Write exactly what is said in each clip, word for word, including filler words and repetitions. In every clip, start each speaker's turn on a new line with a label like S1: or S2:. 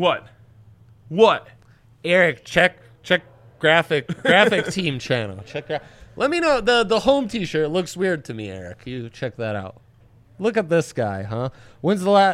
S1: What? What?
S2: Eric, check check graphic graphic team channel. Check gra- Let me know. The the home T-shirt looks weird to me, Eric. You check that out. Look at this guy, huh? When's the last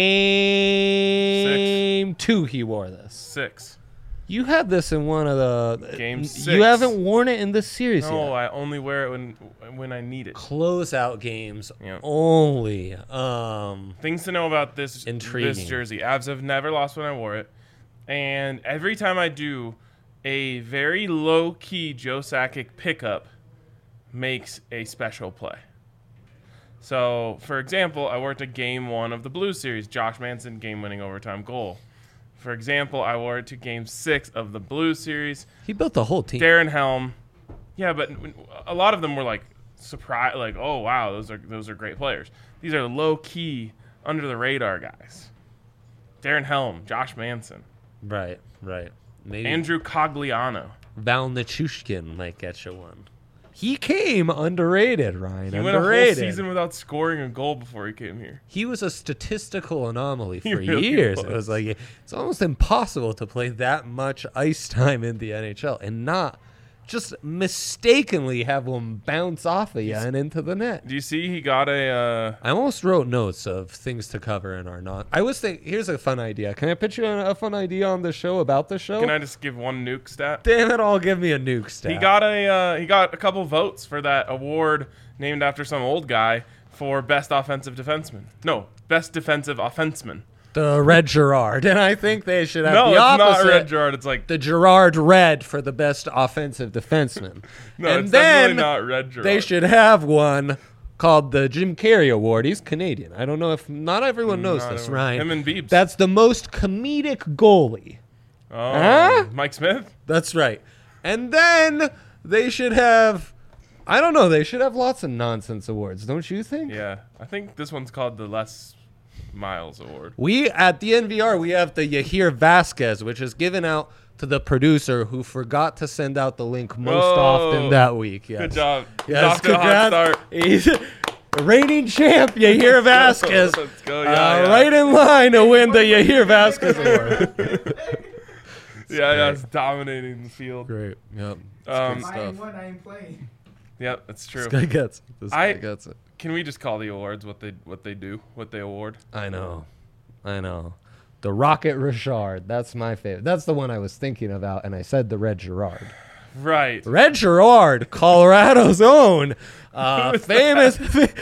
S2: game
S1: Six.
S2: two he wore this?
S1: Six.
S2: You had this in one of the
S1: Game six.
S2: You haven't worn it in this series
S1: No,
S2: yet.
S1: I only wear it when when I need it.
S2: Closeout games
S1: Yeah.
S2: only. Um,
S1: Things to know about this
S2: Intriguing.
S1: this jersey. Avs have never lost when I wore it, and every time I do, a very low key Joe Sakic pickup makes a special play. So, for example, I wore it to game one of the Blues series, Josh Manson game-winning overtime goal. For example, I wore it to game six of the Blues series.
S2: he built the whole team.
S1: Darren Helm. Yeah, but a lot of them were like surprise, like, oh wow, those are those are great players. These are low key, under the radar guys. Darren Helm, Josh Manson,
S2: Right, right. Maybe
S1: Andrew Cogliano.
S2: Val Nichushkin might get you one. He came underrated, Ryan.
S1: He went a whole
S2: underrated.
S1: season without scoring a goal before he came here.
S2: He was a statistical anomaly
S1: He
S2: for
S1: really
S2: years.
S1: was.
S2: It was like it's almost impossible to play that much ice time in the N H L and not just mistakenly have one bounce off of you and into the net.
S1: Do you see he got a? Uh,
S2: I almost wrote notes of things to cover in our not. I was think. Here's a fun idea. Can I pitch you a, a fun idea on the show about the show?
S1: can I just give one nuke stat?
S2: Damn it! All give me a nuke stat.
S1: He got a uh, he got a couple votes for that award named after some old guy for best offensive defenseman. No, best defensive offenseman.
S2: the Red Gerard, and I think they should have
S1: No,
S2: the
S1: it's
S2: opposite.
S1: not Red Gerard. It's like
S2: The Gerard Red for the best offensive defenseman.
S1: no,
S2: and
S1: it's
S2: then
S1: definitely not Red Gerard.
S2: they should have one called the Jim Carrey Award. He's Canadian. I don't know if not everyone knows
S1: Not
S2: this,
S1: everyone-
S2: Ryan.
S1: Him and Biebs.
S2: That's the most comedic goalie.
S1: Oh,
S2: Huh?
S1: Mike Smith.
S2: That's right. And then they should have, I don't know, they should have lots of nonsense awards, don't you think?
S1: Yeah, I think this one's called the Les Miles Award.
S2: We, at the N V R, we have the Yahir Vasquez, which is given out to the producer who forgot to send out the link most
S1: Oh,
S2: often that week. Yes.
S1: Good job. He's
S2: Yes,
S1: off to a hot start.
S2: He's a reigning champ, Yahir Vasquez.
S1: Let's go,
S2: uh,
S1: yeah, yeah.
S2: Right in line to win the Yahir Vasquez Award.
S1: Yeah, yeah, it's dominating the field.
S2: Great. Yep.
S1: Um,
S2: Good
S3: I am
S2: stuff.
S3: one, I am playing.
S1: Yep, that's true.
S2: This guy gets it. This
S1: I-
S2: guy gets it.
S1: Can we just call the awards what they what they do, what they award?
S2: I know. I know. The Rocket Richard. That's my favorite. That's the one I was thinking about, and I said the Red Gerard.
S1: Right.
S2: Red Gerard, Colorado's own. Uh, famous,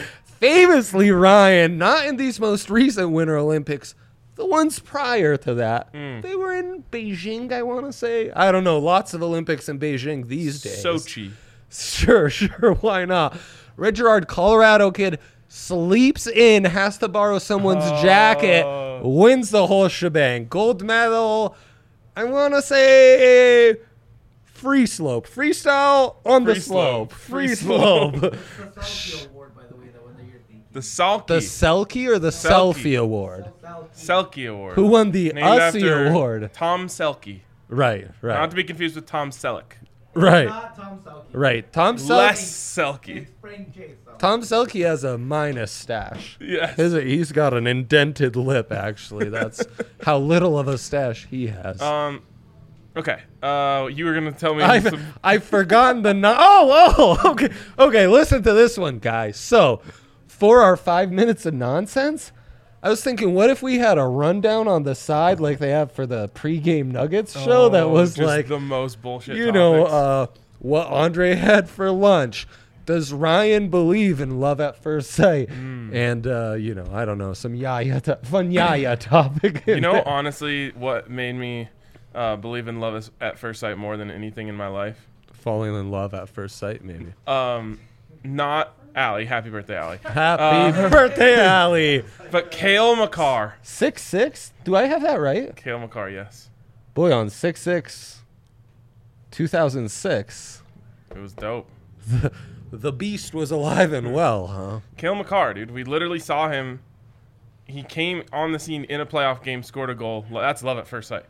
S2: famously, Ryan, not in these most recent Winter Olympics, the ones prior to that.
S1: Mm.
S2: They were in Beijing, I want to say. I don't know. Lots of Olympics in Beijing these days.
S1: Sochi.
S2: Sure, sure. Why not? Red Gerard, Colorado kid, sleeps in, has to borrow someone's
S1: Oh.
S2: jacket, wins the whole shebang. Gold medal, I want to say free slope. Freestyle on the
S1: Free
S2: slope.
S1: slope.
S2: Free
S1: Free
S2: slope.
S1: slope.
S3: It's the Selkie Award, by the way, the one that you're thinking.
S1: The Salky.
S2: The Selkie or the
S1: Selkie.
S2: Selfie Award?
S3: Selkie.
S1: Selkie Award.
S2: Who won the
S1: Named
S2: Ussie
S1: after
S2: Award?
S1: Tom Selke.
S2: Right,
S1: Not
S2: right,
S1: to be confused with Tom Selleck.
S2: right,
S3: Not Tom Selkie.
S2: right. Tom
S1: Less
S2: Selkie.
S1: Selke.
S3: It's Frank J. Selkie.
S2: Tom Selkie has a minus stash.
S1: Yes.
S2: His, he's got an indented lip, actually. That's how little of a stash he has.
S1: Um. Okay. Uh, you were gonna tell me.
S2: I've,
S1: some,
S2: I've forgotten the... No- oh, oh, okay. Okay, listen to this one, guys. So, for our five minutes of nonsense, I was thinking, what if we had a rundown on the side like they have for the pregame Nuggets show that
S1: Oh,
S2: was
S1: just
S2: like,
S1: the most bullshit.
S2: you know,
S1: topics.
S2: uh, what Andre had for lunch. Does Ryan believe in love at first sight?
S1: Hmm.
S2: And, uh, you know, I don't know, some yaya, to- fun yaya topic. in
S1: You know,
S2: there.
S1: honestly, what made me uh, believe in love is- at first sight more than anything in my life?
S2: Falling in love at first sight, maybe.
S1: Um, not Allie. Happy birthday, Allie.
S2: Happy
S1: Uh,
S2: birthday, Allie.
S1: But Kale McCarr.
S2: Six six? Do I have that right?
S1: Kale McCarr, yes.
S2: Boy, on six six, two thousand six,
S1: It was dope.
S2: the, the beast was alive and well, huh?
S1: Kale McCarr, dude. We literally saw him. He came on the scene in a playoff game, scored a goal. That's love at first sight.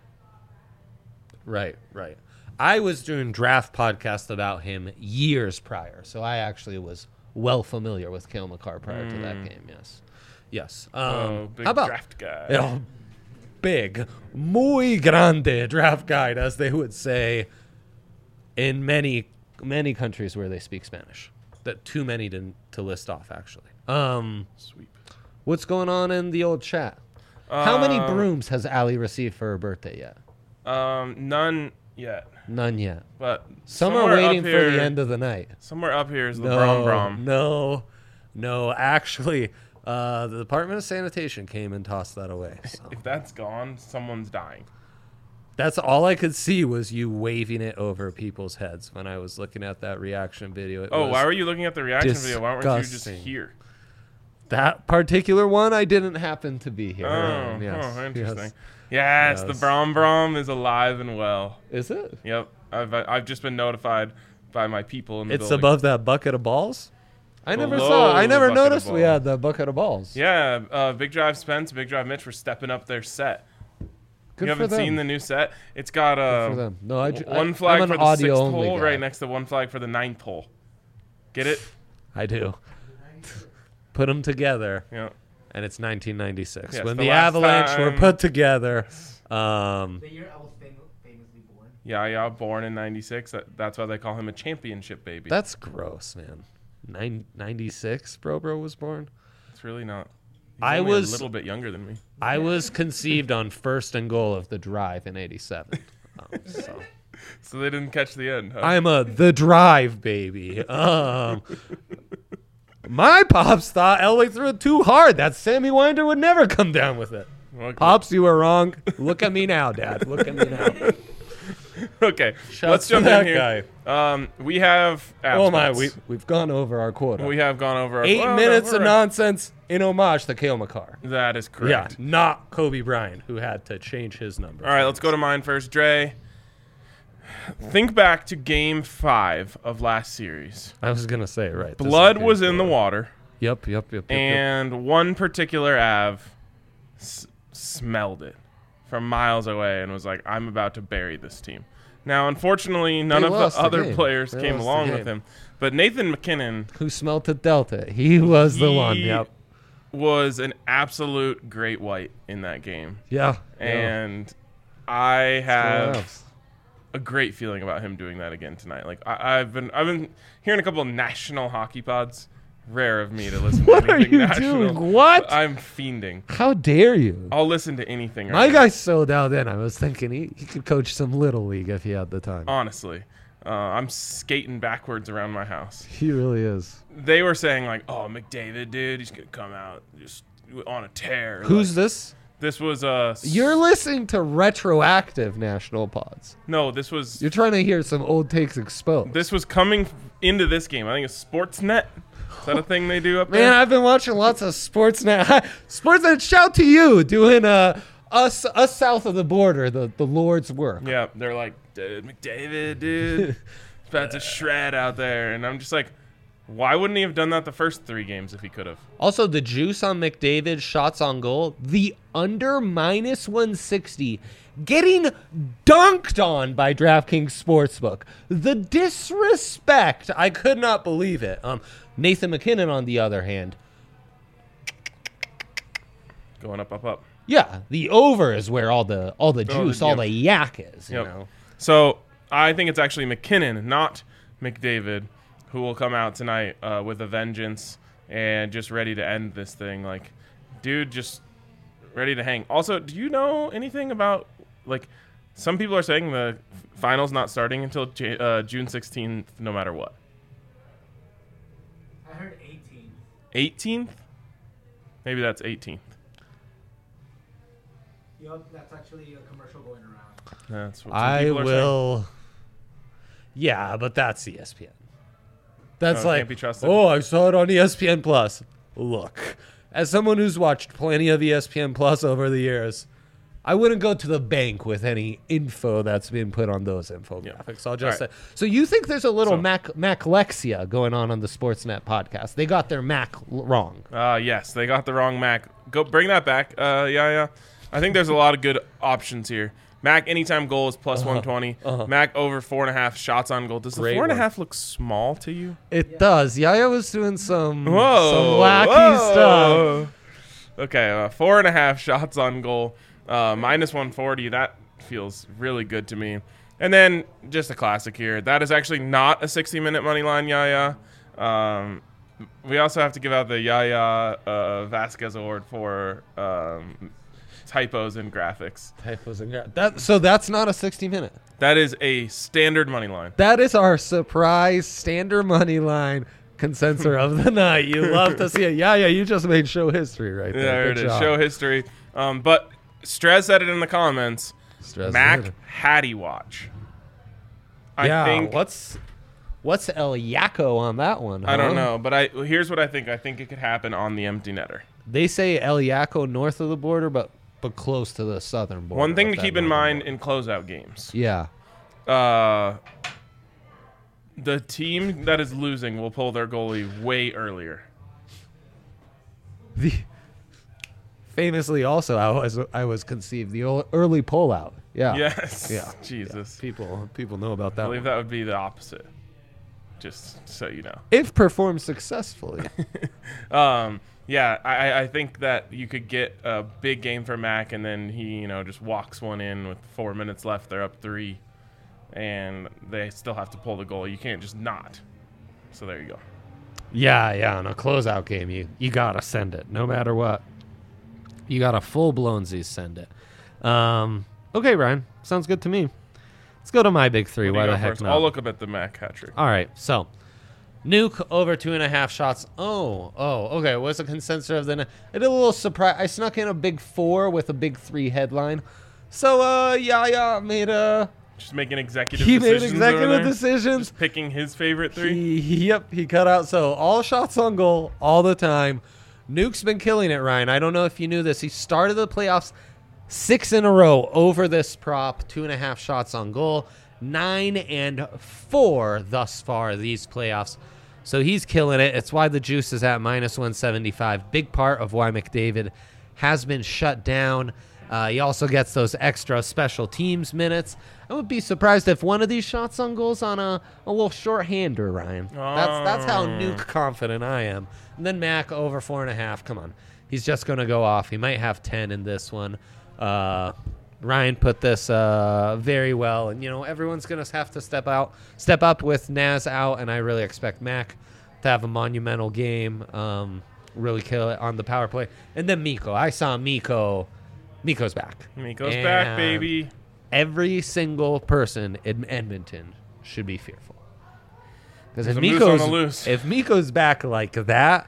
S2: Right, right. I was doing draft podcast about him years prior, so I actually was well familiar with Kale McCarr prior to that game. Yes, yes. Um,
S1: oh, big
S2: how about
S1: draft guy.
S2: you know, big, muy grande draft guide, as they would say in many many countries where they speak Spanish. That too many to to list off, actually. Um,
S1: Sweep.
S2: what's going on in the old chat? How many
S1: Um,
S2: brooms has Allie received for her birthday yet?
S1: Um, none yet,
S2: None yet.
S1: but
S2: Some are
S1: somewhere
S2: waiting
S1: up
S2: for
S1: here-
S2: the end of the night.
S1: Somewhere up here is the
S2: No,
S1: Brom Brom.
S2: no, no. Actually, uh, the Department of Sanitation came and tossed that away. So.
S1: If that's gone, someone's dying.
S2: That's all I could see was you waving it over people's heads when I was looking at that reaction video. It
S1: Oh,
S2: was
S1: why were you looking at the reaction video? Why weren't you just
S2: disgusting.
S1: here?
S2: that particular one? I didn't happen to be here.
S1: Oh,
S2: Um, yes,
S1: oh, interesting.
S2: yes.
S1: Yes, the
S2: Yes.
S1: Brom Brom is alive and well.
S2: Is it?
S1: Yep, I've I've just been notified by my people in the
S2: It's
S1: building.
S2: above that bucket of balls. I never
S1: Below
S2: saw. I
S1: the
S2: never
S1: bucket of
S2: noticed we
S1: balls.
S2: had the bucket of balls.
S1: Yeah, uh, Big Drive Spence, Big Drive Mitch were stepping up their set.
S2: Good
S1: you
S2: for
S1: haven't
S2: them.
S1: seen the new set? It's got uh,
S2: Good for them. No, I ju- I-
S1: one flag
S2: I'm
S1: for
S2: an
S1: the
S2: audio
S1: sixth
S2: only
S1: hole,
S2: guy.
S1: right next to one flag for the ninth hole. Get it?
S2: I do. Put them together,
S1: Yeah.
S2: and it's nineteen ninety-six
S1: Yes,
S2: when
S1: the
S2: the,
S1: last
S2: Avalanche were
S1: time-
S2: put together. Um,
S3: The year I was fam- famously born.
S1: Yeah, yeah, born in ninety-six. That, that's why they call him a championship baby.
S2: that's gross, man. Nine, ninety-six, bro, bro was born.
S1: It's really not. He's
S2: I
S1: only
S2: was-
S1: a little bit younger than me.
S2: I was conceived on first and goal of the drive in eighty-seven. Um, so.
S1: So they didn't catch the end. Huh?
S2: I'm a the drive baby. Um, my pops thought Elway threw it too hard. That Sammy Winder would never come down with it.
S1: Okay.
S2: Pops, you were wrong. Look at me now, Dad. Look at me now.
S1: Okay,
S2: Shouts
S1: let's
S2: to
S1: jump
S2: that
S1: in here. Um, we have.
S2: Oh my,
S1: absence.
S2: we we've gone over our quota.
S1: we have gone over our
S2: Eight
S1: well, no,
S2: minutes
S1: we're
S2: of
S1: right.
S2: nonsense in homage to Cale Makar.
S1: That is
S2: Yeah,
S1: correct.
S2: not Kobe Bryant, who had to change his number.
S1: All right, let's go to mine first. Dre, think back to Game Five of last series.
S2: I was gonna say it right. This is
S1: Blood
S2: good
S1: was in the
S2: for-
S1: water,
S2: Yep, yep, yep, yep. yep.
S1: and one particular Av s- smelled it from miles away and was like, "I'm about to bury this team." Now, unfortunately, none
S2: They
S1: of
S2: lost
S1: the
S2: the
S1: other
S2: game.
S1: players
S2: They
S1: came
S2: lost the
S1: along
S2: game.
S1: with him, but Nathan McKinnon
S2: Who smelt the Delta? He was the one.
S1: He-
S2: Yep.
S1: was an absolute great white in that game,
S2: Yeah.
S1: and I
S2: What
S1: have
S2: else?
S1: a great feeling about him doing that again tonight. Like I, I've been, I've been hearing a couple of national hockey pods. Rare of me to listen
S2: What
S1: to
S2: are
S1: anything
S2: you
S1: national.
S2: doing? What?
S1: I'm fiending.
S2: How dare you?
S1: I'll listen to anything. Right
S2: My
S1: now.
S2: guy's so dialed in. I was thinking he, he could coach some little league if he had the time.
S1: Honestly, uh, I'm skating backwards around my house.
S2: He really is.
S1: They were saying like, "Oh, McDavid, dude, he's gonna come out just on a tear."
S2: Who's
S1: Like,
S2: this?
S1: this? Was uh, s-
S2: You're listening to retroactive national pods.
S1: no, this was
S2: You're trying to hear some old takes exposed.
S1: this was coming into this game. I think it's Sportsnet. Is that a thing they do up
S2: Man,
S1: there?
S2: I've been watching lots of Sportsnet. Sportsnet, shout to you doing uh, us us south of the border, the, the Lord's work.
S1: Yeah, they're like, dude, McDavid, dude, it's about to shred out there, and I'm just like, why wouldn't he have done that the first three games if he could have?
S2: Also, the juice on McDavid, shots on goal, the under minus one sixty, getting dunked on by DraftKings Sportsbook. The disrespect, I could not believe it. Um, Nathan McKinnon, on the other hand,
S1: Going up, up, up.
S2: yeah, the over is where all the all the
S1: Oh, the-
S2: juice, all
S1: yep.
S2: the yak is. You
S1: Yep.
S2: know,
S1: So I think it's actually McKinnon, not McDavid, who will come out tonight uh, with a vengeance and just ready to end this thing. Like, dude, just ready to hang. Also, do you know anything about, like, some people are saying the finals not starting until J- uh, June sixteenth, no matter what.
S3: I heard eighteen.
S1: eighteenth? Maybe that's eighteenth.
S3: Yup, that's actually a commercial going around.
S1: That's what some
S2: I
S1: people are saying.
S2: will. Yeah, but that's E S P N. That's
S1: Oh,
S2: like,
S1: can't be trusted.
S2: oh, I saw it on E S P N Plus. Look, as someone who's watched plenty of E S P N Plus over the years, I wouldn't go to the bank with any info that's been put on those infographics. I'll just
S1: All
S2: say. So you think there's a little
S1: So-
S2: Mac Maclexia going on on the Sportsnet podcast? They got their Mac l- wrong.
S1: Uh, yes, they got the wrong Mac. Go bring that back. Uh, yeah, yeah. I think there's a lot of good options here. Mac anytime goal is plus one twenty.
S2: uh-huh.
S1: Mac over four and a half shots on goal. Does the
S2: Great
S1: four and a
S2: one.
S1: half look small to you?
S2: It does. Yaya was doing some
S1: Whoa,
S2: some wacky
S1: whoa.
S2: stuff.
S1: Okay, uh, four and a half shots on goal. Uh, minus one forty, that feels really good to me. And then just a classic here. That is actually not a sixty-minute money line, Yaya. Um, we also have to give out the Yaya uh, Vasquez Award for um, typos in graphics.
S2: Typos and gra- that. So that's not a sixty minute.
S1: That is a standard money line.
S2: That is our surprise standard money line consensus of the night. You love to see it. Yeah, yeah. You just made show history right there.
S1: There
S2: Good
S1: it is.
S2: job.
S1: Show history. Um, but Strez said it in the comments.
S2: Stress
S1: Mac
S2: it.
S1: Hattie watch. I
S2: yeah.
S1: think
S2: What's what's El Yaco on that one?
S1: I don't
S2: huh?
S1: know, but I here's what I think. I think it could happen on the empty netter.
S2: They say El Yaco north of the border, but but close to the southern border.
S1: One thing
S2: of
S1: to
S2: that
S1: keep in
S2: northern
S1: mind
S2: border.
S1: in closeout games.
S2: Yeah.
S1: Uh, the team that is losing will pull their goalie way earlier.
S2: The famously also I was I was conceived the ol- early pullout. Yeah.
S1: Yes.
S2: Yeah.
S1: Jesus.
S2: People people know about
S1: I
S2: that.
S1: believe
S2: one.
S1: that would be the opposite. Just so you know.
S2: If performed successfully.
S1: Um, yeah, I, I think that you could get a big game for Mac, and then he, you know, just walks one in with four minutes left. They're up three, and they still have to pull the goal. You can't just not. So there you go.
S2: Yeah, yeah. On a closeout game, you you gotta send it, no matter what. You gotta full blown Z send it. Um, okay, Ryan, sounds good to me. Let's go to my big three.
S1: What do
S2: Why
S1: you
S2: the
S1: go
S2: heck
S1: first?
S2: not?
S1: I'll look up at the Mac hat trick.
S2: All right, so Nuke over two and a half shots. Oh, oh, okay. What's the consensus of the night? I did a little surprise. I snuck in a big four with a big three headline. So, uh, Yaya made a.
S1: Just making executive
S2: He made
S1: decisions. over
S2: executive
S1: there.
S2: decisions.
S1: Just picking his favorite three.
S2: He, yep, he cut out. So all shots on goal all the time. Nuke's been killing it, Ryan. I don't know if you knew this. He started the playoffs six in a row over this prop, two and a half shots on goal, nine and four thus far these playoffs. So he's killing it. It's why the juice is at minus one seventy-five. Big part of why McDavid has been shut down. Uh, he also gets those extra special teams minutes. I would be surprised if one of these shots on goals on a, a little short-hander, Ryan. That's that's how
S1: Oh.
S2: nuke confident I am. And then Mac over four and a half. Come on. He's just going to go off. He might have ten in this one. Uh, Ryan put this uh, very well. And, you know, everyone's going to have to step out, step up with Naz out. And I really expect Mac to have a monumental game, um, really kill it on the power play. And then Mikko. I saw Mikko. Mikko's back.
S1: Miko's
S2: And
S1: back, baby.
S2: Every single person in Edmonton should be fearful. Because if
S1: There's a moose on
S2: Mikko's,
S1: the loose.
S2: if Mikko's back like that,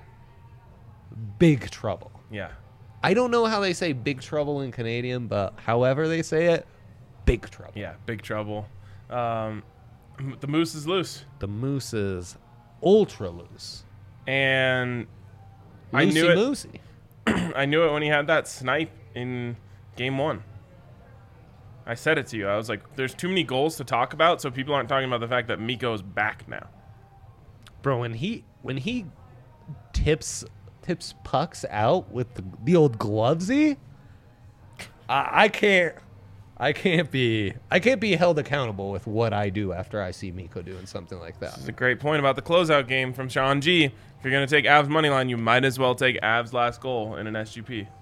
S2: big trouble.
S1: Yeah.
S2: I don't know how they say big trouble in Canadian, but however they say it, big trouble.
S1: Yeah, big trouble. Um, the moose is loose.
S2: The Moose is ultra loose.
S1: And I knew it.
S2: Moosey.
S1: I knew it when he had that snipe in game one. I said it to you. I was like, there's too many goals to talk about, so people aren't talking about the fact that Mikko is back now.
S2: Bro, when he when he tips tips pucks out with the, the old glovesy, I, I can't I can't be I can't be held accountable with what I do after I see Mikko doing something like that.
S1: This is a great point about the closeout game from Sean G. If you're going to take Avs money line, you might as well take Avs last goal in an S G P.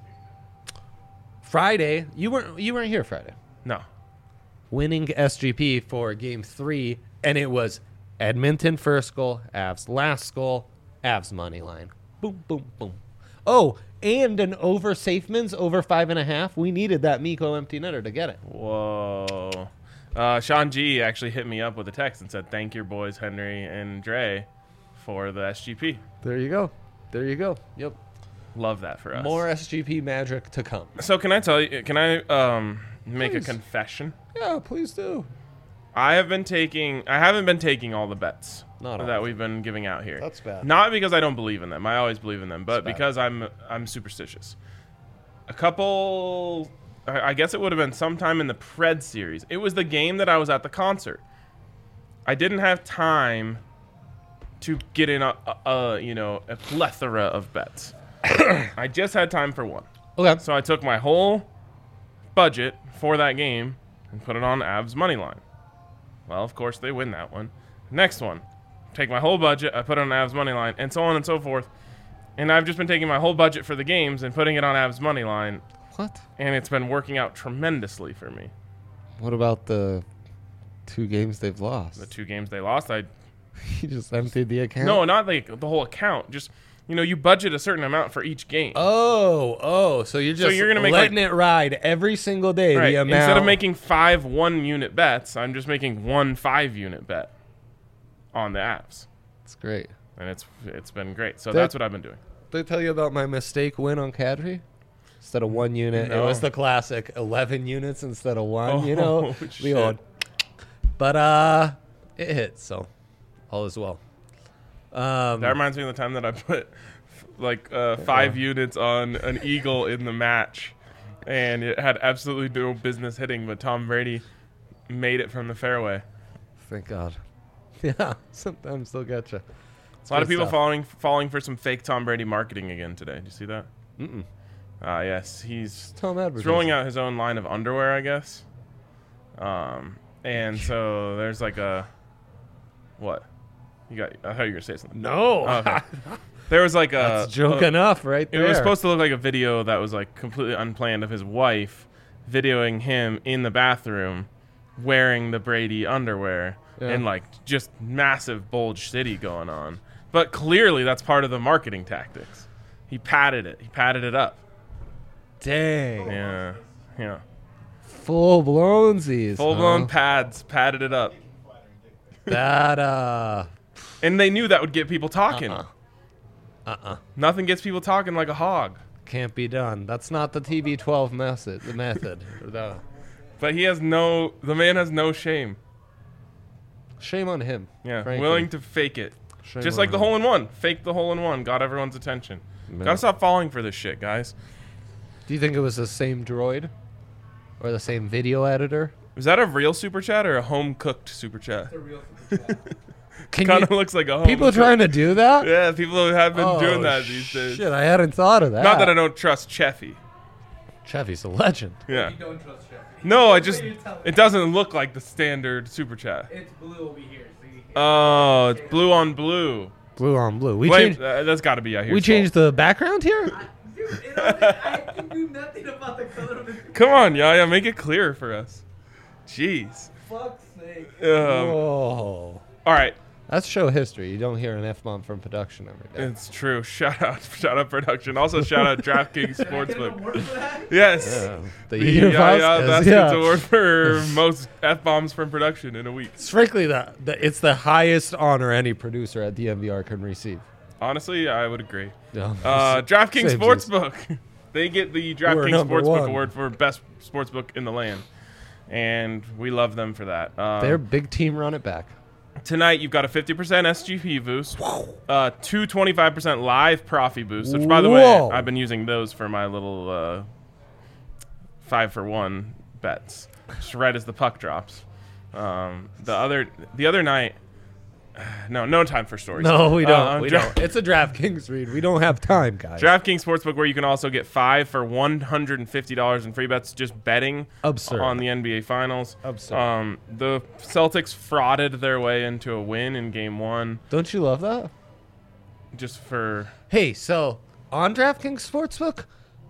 S2: Friday, you weren't you weren't here Friday.
S1: No.
S2: Winning S G P for game three, and it was Edmonton first goal, Avs last goal, Avs money line. Boom, boom, boom. Oh, and an over Safeman's over five and a half. We needed that Mikko empty netter to get it.
S1: Whoa. Uh, Sean G actually hit me up with a text and said, thank your boys, Henry and Dre, for the S G P.
S2: There you go. There you go. Yep.
S1: Love that for us.
S2: More S G P magic to come.
S1: So can I tell you, can I um, make
S2: Please.
S1: a confession?
S2: Yeah, please do.
S1: I have been taking, I haven't been taking all the bets
S2: Not all
S1: that
S2: of
S1: we've been giving out here.
S2: That's bad.
S1: Not because I don't believe in them. I always believe in them, but
S2: That's bad.
S1: because I'm I'm superstitious. A couple, I I guess it would have been sometime in the Pred series. It was the game that I was at the concert. I didn't have time to get in a, a, a you know a plethora of bets. I just had time for one.
S2: Okay.
S1: So I took my whole budget for that game and put it on Avs money line. Well, of course, they win that one. Next one, take my whole budget, I put it on Avs money line, and so on and so forth. And I've just been taking my whole budget for the games and putting it on Avs money line
S2: What?
S1: and it's been working out tremendously for me.
S2: What about the two games they've lost?
S1: The two games they lost, I
S2: You just emptied the account?
S1: no, not like the whole account. Just you know, you budget a certain amount for each game.
S2: Oh, oh, so you're just
S1: you're gonna make,
S2: letting
S1: like-
S2: it ride every single day.
S1: Right.
S2: The amount.
S1: Instead of making five one-unit bets, I'm just making one five-unit bet on the apps,
S2: It's great.
S1: and it's it's been great. So
S2: That-
S1: that's what I've been doing.
S2: Did I tell you about my mistake win on Cadre? Instead of one unit,
S1: No.
S2: it was the classic eleven units instead of one. you know,
S1: Oh,
S2: the
S1: shit.
S2: old. But uh, it hit, so all is well. Um,
S1: That reminds me of the time that I put f- like uh, five units on an eagle in the match, and it had absolutely no business hitting, but Tom Brady made it from the fairway.
S2: thank God. Yeah, sometimes they'll get you.
S1: A lot of
S2: Good
S1: people
S2: stuff.
S1: falling falling for some fake Tom Brady marketing again today. Did you see that?
S2: Mm-mm.
S1: Uh, yes, he's
S2: Tom
S1: he's rolling out his own line of underwear, I guess. Um, and so there's like a what? You got? I thought you were gonna say something.
S2: No,
S1: Oh, okay. There was like a
S2: that's joke
S1: a-
S2: enough, right
S1: It
S2: there.
S1: was supposed to look like a video that was like completely unplanned of his wife videoing him in the bathroom wearing the Brady underwear
S2: Yeah.
S1: and like just massive bulge city going on. But clearly that's part of the marketing tactics. He padded it. He padded it up.
S2: Dang,
S1: Yeah. Yeah.
S2: full blownsies.
S1: Full blown
S2: huh?
S1: pads, padded it up.
S2: That uh,
S1: And they knew that would get people talking.
S2: uh, uh,
S1: Nothing gets people talking like a hog.
S2: can't be done. That's not the T B twelve method. The method. The-
S1: But he has no the man has no shame.
S2: Shame on him.
S1: Yeah.
S2: frankly.
S1: Willing to fake it.
S2: Shame
S1: Just
S2: on
S1: like the
S2: him.
S1: hole in one. Fake the hole in one. Got everyone's attention.
S2: Yeah.
S1: Gotta stop falling for this shit, guys.
S2: Do you think it was the same droid, or the same video editor?
S1: Was that a real super chat or a home cooked super chat?
S3: It's a real super chat.
S2: Can
S1: Kind
S2: you,
S1: of looks like a home
S2: people trying to do that?
S1: Yeah, people have been
S2: Oh,
S1: doing that these days.
S2: Shit, I hadn't thought of that.
S1: Not that I don't trust Cheffy.
S2: Chevy's a legend.
S1: Yeah.
S3: You don't trust Chef.
S1: No, I just
S3: You tell me.
S1: it doesn't look like the standard super chat.
S3: It's blue over here, so you can't.
S1: Oh, it's blue on blue.
S2: Blue on blue. We
S1: Wait,
S2: changed.
S1: uh, that's got to be out here.
S2: We changed the background here.
S3: Dude, it only, I can do nothing about the color of the
S1: Come on, Yaya, make it clear for us. Jeez.
S3: fuck's sake.
S1: Um,
S2: Whoa.
S1: all right.
S2: That's show history. You don't hear an F bomb from production every day.
S1: It's true. Shout out, shout out production. Also, shout out DraftKings
S3: Did I get an
S1: Sportsbook.
S3: award for that?
S1: Yes.
S2: Yeah. The
S1: The
S2: year
S1: Yaya
S2: Vasquez,
S1: Vasquez
S2: yeah.
S1: Award for most f bombs from production in a week.
S2: It's frankly the, the it's the highest honor any producer at D M V R can receive.
S1: Honestly, I would agree.
S2: Yeah.
S1: Uh, DraftKings
S2: Same
S1: Sportsbook. They get the DraftKings
S2: number
S1: Sportsbook
S2: one.
S1: Award for best sportsbook in the land, and we love them for that. Um,
S2: Their big team run it back.
S1: Tonight, you've got a fifty percent S G P boost, uh, two twenty-five percent live Profi boost, which, by the
S2: Whoa.
S1: way, I've been using those for my little uh, five for one bets, just right as the puck drops. Um, the other the other night, no, no time for stories.
S2: No, we don't.
S1: Uh,
S2: we
S1: Dra-
S2: don't. It's a DraftKings read. We don't have time, guys.
S1: DraftKings Sportsbook, where you can also get five for one hundred fifty dollars in free bets just betting
S2: Absurd.
S1: on the N B A Finals.
S2: Absurd.
S1: Um, the Celtics frauded their way into a win in Game One
S2: Don't you love that?
S1: just for
S2: Hey, so on DraftKings Sportsbook,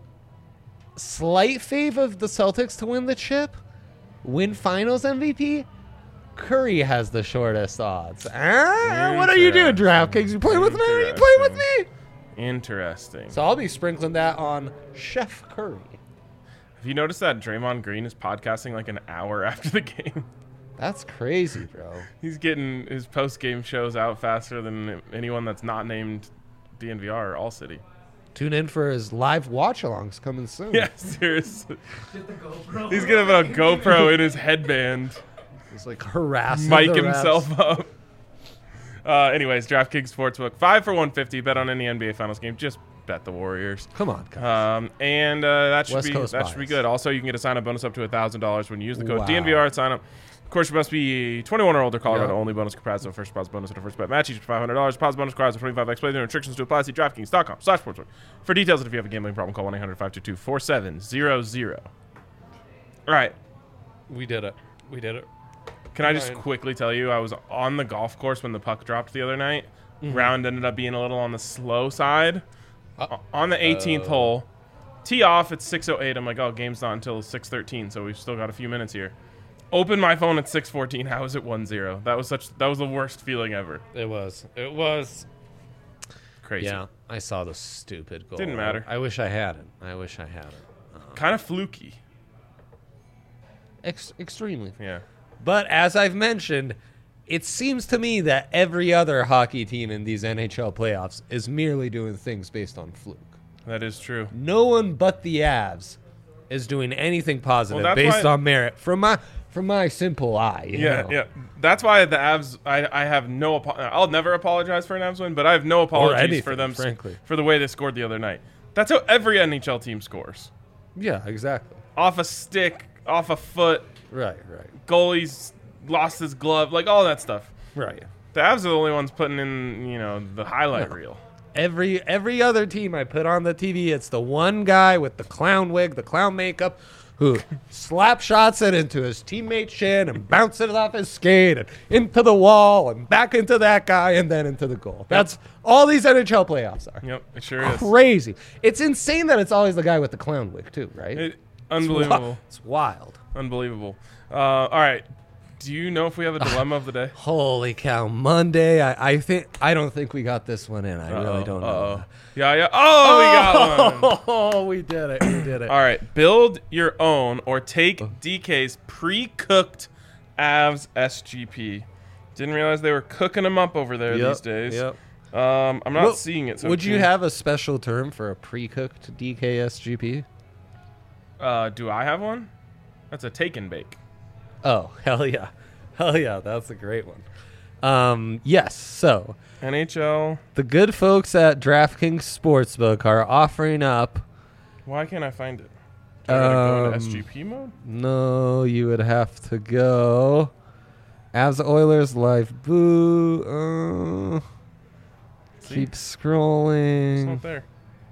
S2: slight fave of the Celtics to win the chip, win Finals M V P. Curry has the shortest odds. Ah, what are you doing,
S1: Interesting.
S2: DraftKings? You playing with me? Are you playing with me?
S1: interesting.
S2: So I'll be sprinkling that on Chef Curry.
S1: Have you noticed that Draymond Green is podcasting like an hour after the game?
S2: That's crazy, bro.
S1: He's getting his post-game shows out faster than anyone that's not named D N V R or All City.
S2: Tune in for his live watch-alongs coming soon.
S1: Yeah, seriously.
S3: Just the GoPro.
S1: He's gonna have a GoPro in his headband.
S2: He's like harassing
S1: Mic
S2: the refs.
S1: himself up. Uh, anyways, DraftKings Sportsbook, five for one fifty. Bet on any N B A Finals game. Just bet the Warriors.
S2: Come on, guys.
S1: Um, and uh, that should
S2: West
S1: be
S2: Coast
S1: that should be
S2: bias.
S1: good. Also, you can get a sign-up bonus up to one thousand dollars when you use the code
S2: Wow.
S1: D N V R at sign-up. Of course, you must be twenty-one or older. Colorado
S2: Yeah.
S1: only. Bonus comprised of first deposit bonus and a first bet match. Each for five hundred dollars. Deposit bonus requires a twenty-five x play. There are restrictions to apply. See DraftKings dot com slash sportsbook for details. And if you have a gambling problem, call one eight hundred five two two four seven zero zero. All right.
S2: We did it. We did it.
S1: Can I just
S2: Fine.
S1: quickly tell you, I was on the golf course when the puck dropped the other night.
S2: Mm-hmm.
S1: Round ended up being a little on the slow side.
S2: Uh,
S1: O- on the eighteenth
S2: uh,
S1: hole, Tee off at six oh eight. I'm like, oh, game's not until six thirteen, so we've still got a few minutes here. Open my phone at six fourteen. How is it one zero? That was such. That was the worst feeling ever.
S2: It was. It was.
S1: Crazy.
S2: Yeah, I saw the stupid goal.
S1: Didn't matter.
S2: I wish I had it. I wish I had it. Uh,
S1: Kind of fluky.
S2: ex- extremely.
S1: Yeah.
S2: But as I've mentioned, it seems to me that every other hockey team in these N H L playoffs is merely doing things based on fluke.
S1: That is true.
S2: No one but the Avs is doing anything positive
S1: Well, that's
S2: based
S1: why-
S2: on merit from my from my simple eye. you
S1: Yeah,
S2: know.
S1: yeah. That's why the Avs. I, I have no. Apo- I'll never apologize for an Avs win, but I have no apologies
S2: anything,
S1: for them s-
S2: frankly.
S1: for the way they scored the other night. That's how every N H L team scores.
S2: Yeah, exactly.
S1: Off a stick, off a foot.
S2: Right, right,
S1: Goalie's lost his glove, like all that stuff.
S2: right.
S1: The Avs are the only ones putting in, you know, the highlight
S2: No.
S1: reel.
S2: Every every other team I put on the T V, it's the one guy with the clown wig, the clown makeup, who slap shots it into his teammate's shin and bounce it off his skate and into the wall and back into that guy and then into the goal. That's all these N H L playoffs are.
S1: Yep, it sure is.
S2: Crazy. It's insane that it's always the guy with the clown wig too, right?
S1: It,
S2: It's wi-
S1: unbelievable.
S2: It's wild.
S1: Unbelievable. Uh, all right. Do you know if we have a dilemma of the day?
S2: Holy cow! Monday. I, I think I don't think we got this one in. I
S1: Uh-oh,
S2: really don't know.
S1: uh-oh. Yeah, yeah. Oh, we got one.
S2: Oh, we did it. We did it.
S1: All right. Build your own or take D K's pre-cooked Avs S G P. Didn't realize they were cooking them up over there
S2: Yep,
S1: these days.
S2: Yep.
S1: Um, I'm not
S2: Well,
S1: seeing it. So
S2: Would you
S1: can-
S2: have a special term for a pre-cooked D K S G P?
S1: Uh, do I have one? That's a take and bake.
S2: Oh, hell yeah. Hell yeah, that's a great one. Um, yes, so
S1: N H L.
S2: the good folks at DraftKings Sportsbook are offering up.
S1: Why can't I find it? Do I gotta go into
S2: Um,
S1: S G P mode?
S2: No, you would have to go. Avs Oilers live boo. Uh,
S1: See?
S2: keep
S1: It's
S2: scrolling.
S1: not there.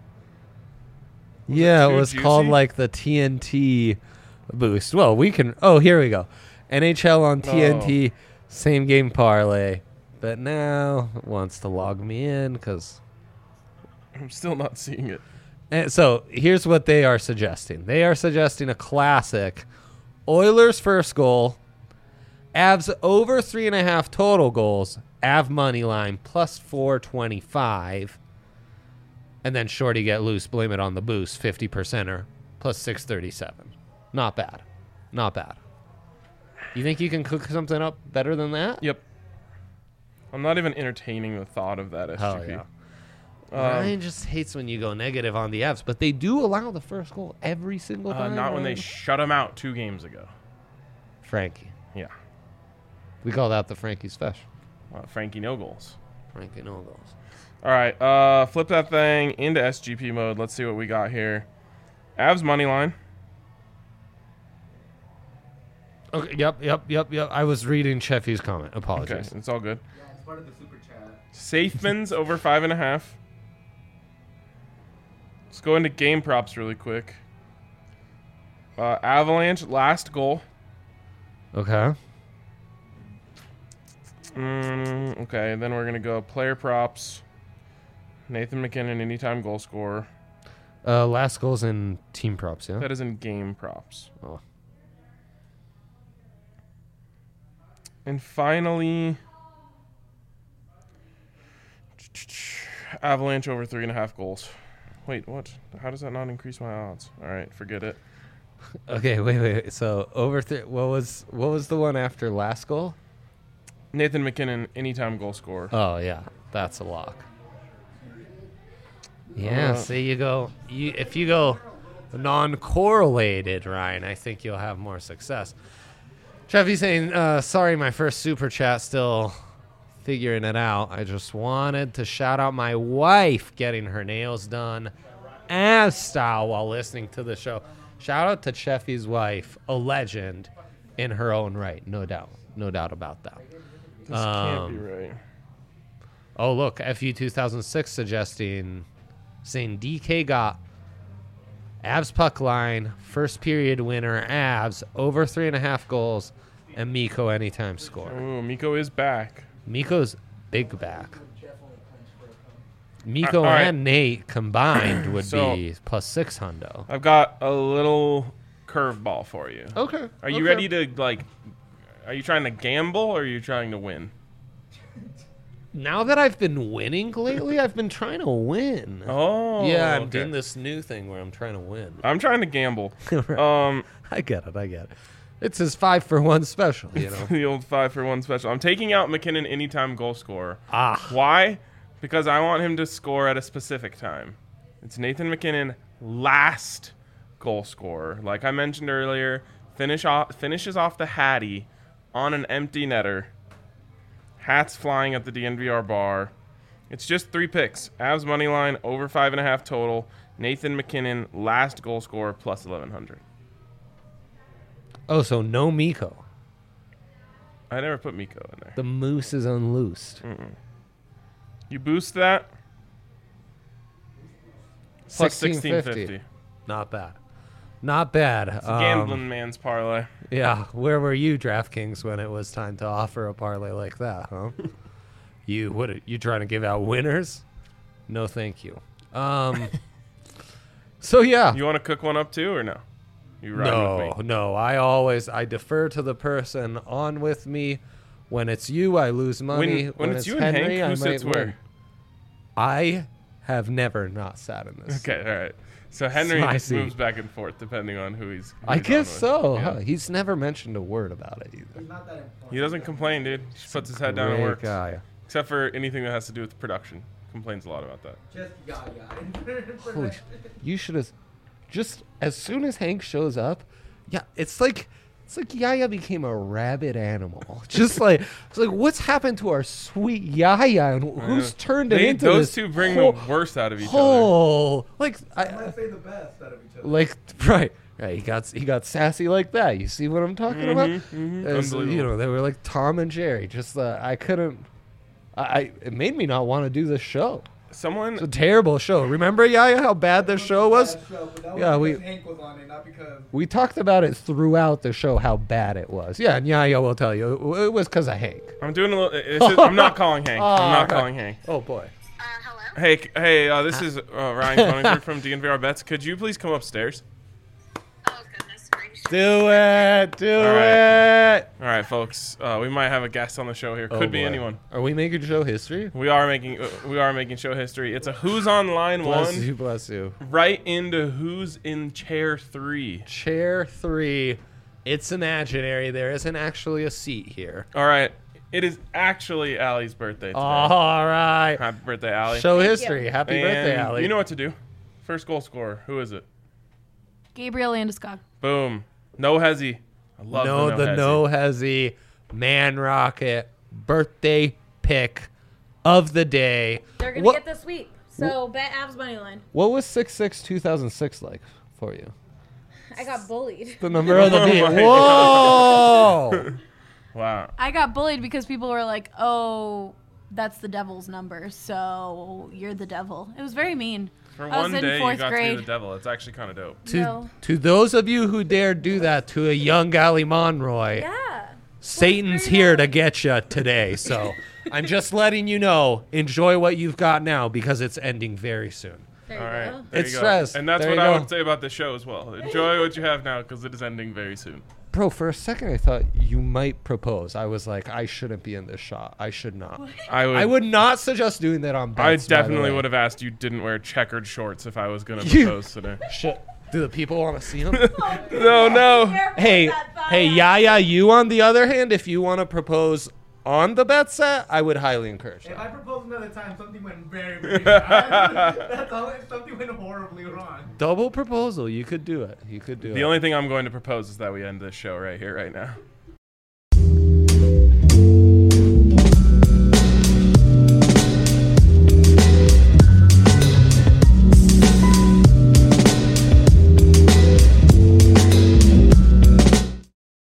S1: Was it
S2: Yeah, it,
S1: too
S2: was called
S1: juicy?
S2: like the T N T boost. Well, we can. Oh, here we go. N H L on T N T, same game parlay. But now it wants to log me in because.
S1: I'm still not seeing it.
S2: And so here's what they are suggesting. They are suggesting a classic Oilers first goal, Avs over three and a half total goals, Av money line plus four twenty-five, and then Shorty get loose, blame it on the boost, fifty percenter plus six thirty-seven. Not bad. Not bad. You think you can cook something up better than that?
S1: Yep. I'm not even entertaining the thought of that S G P.
S2: Hell yeah.
S1: Um,
S2: Ryan just hates when you go negative on the Avs, but they do allow the first goal every single
S1: uh,
S2: time.
S1: not when they
S2: Ryan.
S1: shut him out two games ago.
S2: Frankie.
S1: Yeah.
S2: We call that the Frankie special.
S1: Uh, Frankie no goals.
S2: Frankie no goals.
S1: All right. Uh, flip that thing into S G P mode. Let's see what we got here. Avs money line.
S2: Okay. Yep. Yep. Yep. Yep. I was reading Cheffy's comment.
S1: Okay,
S2: Apologies.
S1: it's all good.
S3: Yeah, it's part of the super chat.
S1: Safemans over five and a half. Let's go into game props really quick. Uh, Avalanche last goal.
S2: Okay.
S1: Mm, okay, then we're gonna go player props. Nathan McKinnon anytime goal scorer.
S2: Uh, last goals in team props. Yeah.
S1: That is in game props.
S2: Oh.
S1: And finally, Avalanche over three and a half goals. Wait, what? How does that not increase my odds? All right, forget it.
S2: Okay. Wait. Wait. So over. Th- what was what was the one after last goal?
S1: Nathan McKinnon anytime goal scorer.
S2: Oh yeah, that's a lock. Yeah.
S1: Uh,
S2: see, you go. You if you go non-correlated, Ryan, I think you'll have more success. Cheffy's saying, uh, sorry, my first super chat still figuring it out. I just wanted to shout out my wife getting her nails done as style while listening to the show. Shout out to Cheffy's wife, a legend in her own right, no doubt. No doubt about that.
S1: This can't be
S2: um,
S1: right.
S2: Oh, look, F U two thousand six suggesting, saying D K got Avs puck line, first period winner, Avs, over three and a half goals, and Miko anytime score.
S1: Ooh, Miko is back.
S2: Miko's big back. Miko
S1: all right.
S2: and Nate combined would
S1: So-
S2: be plus six hundo.
S1: I've got a little curveball for you.
S2: Okay.
S1: Are you
S2: okay.
S1: ready to like? Are you trying to gamble or are you trying to win?
S2: Now that I've been winning lately, I've been trying to win.
S1: Oh,
S2: yeah, I'm
S1: okay.
S2: doing this new thing where I'm trying to win.
S1: I'm trying to gamble.
S2: Right.
S1: Um,
S2: I get it. I get it. It's his five for one special, you know.
S1: the old five for one special. I'm taking out McKinnon anytime goal scorer.
S2: ah.
S1: Why? Because I want him to score at a specific time. It's Nathan McKinnon, last goal scorer. Like I mentioned earlier, finish off finishes off the Hattie on an empty netter. Hats flying at the D N V R bar. It's just three picks. Avs money line over five and a half total. Nathan McKinnon, last goal scorer, plus eleven hundred.
S2: Oh, so no Miko.
S1: I never put Miko in there.
S2: The moose is unloosed.
S1: Mm-mm. You boost that. Plus sixteen fifty.
S2: Not bad. Not bad.
S1: It's a
S2: Um,
S1: gambling man's parlay.
S2: Yeah, where were you, DraftKings, when it was time to offer a parlay like that, huh? you what? You trying to give out winners? No, thank you. Um. so yeah.
S1: You want to cook one up too, or no? You riding
S2: No,
S1: with me?
S2: no. I always I defer to the person on with me. When it's you, I lose money.
S1: When, when, it's, you and
S2: Henry,
S1: Hank,
S2: I
S1: who sits
S2: might
S1: where?
S2: win. I have never not sat in this.
S1: Okay, all right. So Henry
S2: my seat.
S1: moves back and forth depending on who he's. Who
S2: I
S1: he's on
S2: guess
S1: with.
S2: so.
S1: Yeah.
S2: Huh? He's never mentioned a word about it either.
S3: He's not that important.
S1: He doesn't complain, dude. He just puts his head down and
S2: Great
S1: works.
S2: guy.
S1: Except for anything that has to do with production. Complains a lot about that.
S3: Just Yaya.
S2: Holy sh- you should have just as soon as Hank shows up. Yeah, it's like it's like Yaya became a rabid animal. Just like it's like what's happened to our sweet Yaya and who's turned it
S1: They,
S2: into
S1: those
S2: this
S1: two bring
S2: whole,
S1: the worst out of each other.
S2: whole like
S3: I
S2: I,
S3: might say the best out of each other.
S2: like right right he got he got sassy like that. You see what I'm talking about?
S1: mhm.
S2: As, you
S1: Unbelievable.
S2: know, they were like Tom and Jerry. Just uh, I couldn't. I, I it made me not want to do this show. It's a
S1: Someone,
S2: terrible show. Remember, Yaya, how bad this show was?
S3: Bad show, but that was
S2: Yeah, we-
S3: because Hank was on it, not because.
S2: We talked about it throughout the show how bad it was. Yeah, and Yaya will tell you it, it was because of Hank.
S1: I'm doing a little. It's just, I'm not calling Hank. I'm not
S2: Alright.
S1: calling Hank.
S2: Oh boy.
S4: Uh, hello?
S1: Hey, c- hey, uh, this is uh, Ryan Conifer from D N V R Bets. Could you please come upstairs?
S4: Oh, goodness gracious.
S2: Do it, do
S1: All
S2: it.
S1: All right, folks. Uh, we might have a guest on the show here. Could
S2: Oh,
S1: be
S2: boy.
S1: anyone.
S2: Are we making show history?
S1: We are making. Uh, we are making show history. It's a Who's on Line
S2: Bless
S1: one,
S2: you, bless you.
S1: right into Who's in Chair three.
S2: Chair three. It's imaginary. There isn't actually a seat here.
S1: All right. It is actually Allie's birthday today.
S2: All right.
S1: Happy birthday, Allie.
S2: Show
S4: Thank
S2: history.
S4: you.
S2: Happy
S1: And
S2: birthday, Allie.
S1: You know what to do. First goal scorer. Who is it?
S5: Gabriel Landeskog.
S1: Boom. No hezzy. I love
S2: no,
S1: the
S2: the
S1: no
S2: no hezzy man rocket birthday pick of the day.
S5: They're gonna
S2: What-
S5: get the sweep. So bet Avs money line.
S2: What was six six two thousand six like for you?
S5: I got bullied.
S2: The number of the beat.
S1: my
S2: Whoa!
S1: Wow.
S5: I got bullied because people were like, "Oh, that's the devil's number, so you're the devil." It was very mean.
S1: For
S5: I was
S1: one
S5: in
S1: day, you
S5: fourth
S1: got to
S5: grade.
S1: be the devil. It's actually kind of dope.
S2: to
S5: No.
S2: to those of you who dared do that to a young Gally Monroy,
S5: Yeah.
S2: Satan's
S5: grade
S2: here
S5: up.
S2: to get you today. So I'm just letting you know. Enjoy what you've got now because it's ending very soon.
S5: There
S1: All
S5: you
S1: right.
S5: go.
S1: There
S2: It's
S1: you go.
S2: stress.
S1: And that's
S2: There
S1: what
S2: you
S1: I
S2: go.
S1: would say about the show as well. Enjoy what you have now because it is ending very soon.
S2: Bro, for a second I thought you might propose. I was like, I shouldn't be in this shot. I should not.
S1: I would.
S2: I would not suggest doing that on
S1: I
S2: bets. by the
S1: definitely
S2: way.
S1: would have asked you didn't wear checkered shorts if I was gonna
S2: You-
S1: propose today.
S2: Shit. Do the people want to see him?
S1: No, no.
S2: hey, hey, Yaya, you on the other hand, if you want to propose on the bet set, I would highly encourage
S3: If
S2: that.
S3: I proposed another time, something went very, very bad. That's all. Something went horribly wrong.
S2: Double proposal, you could do it. You could do it.
S1: The only thing I'm going to propose is that we end this show right here, right now.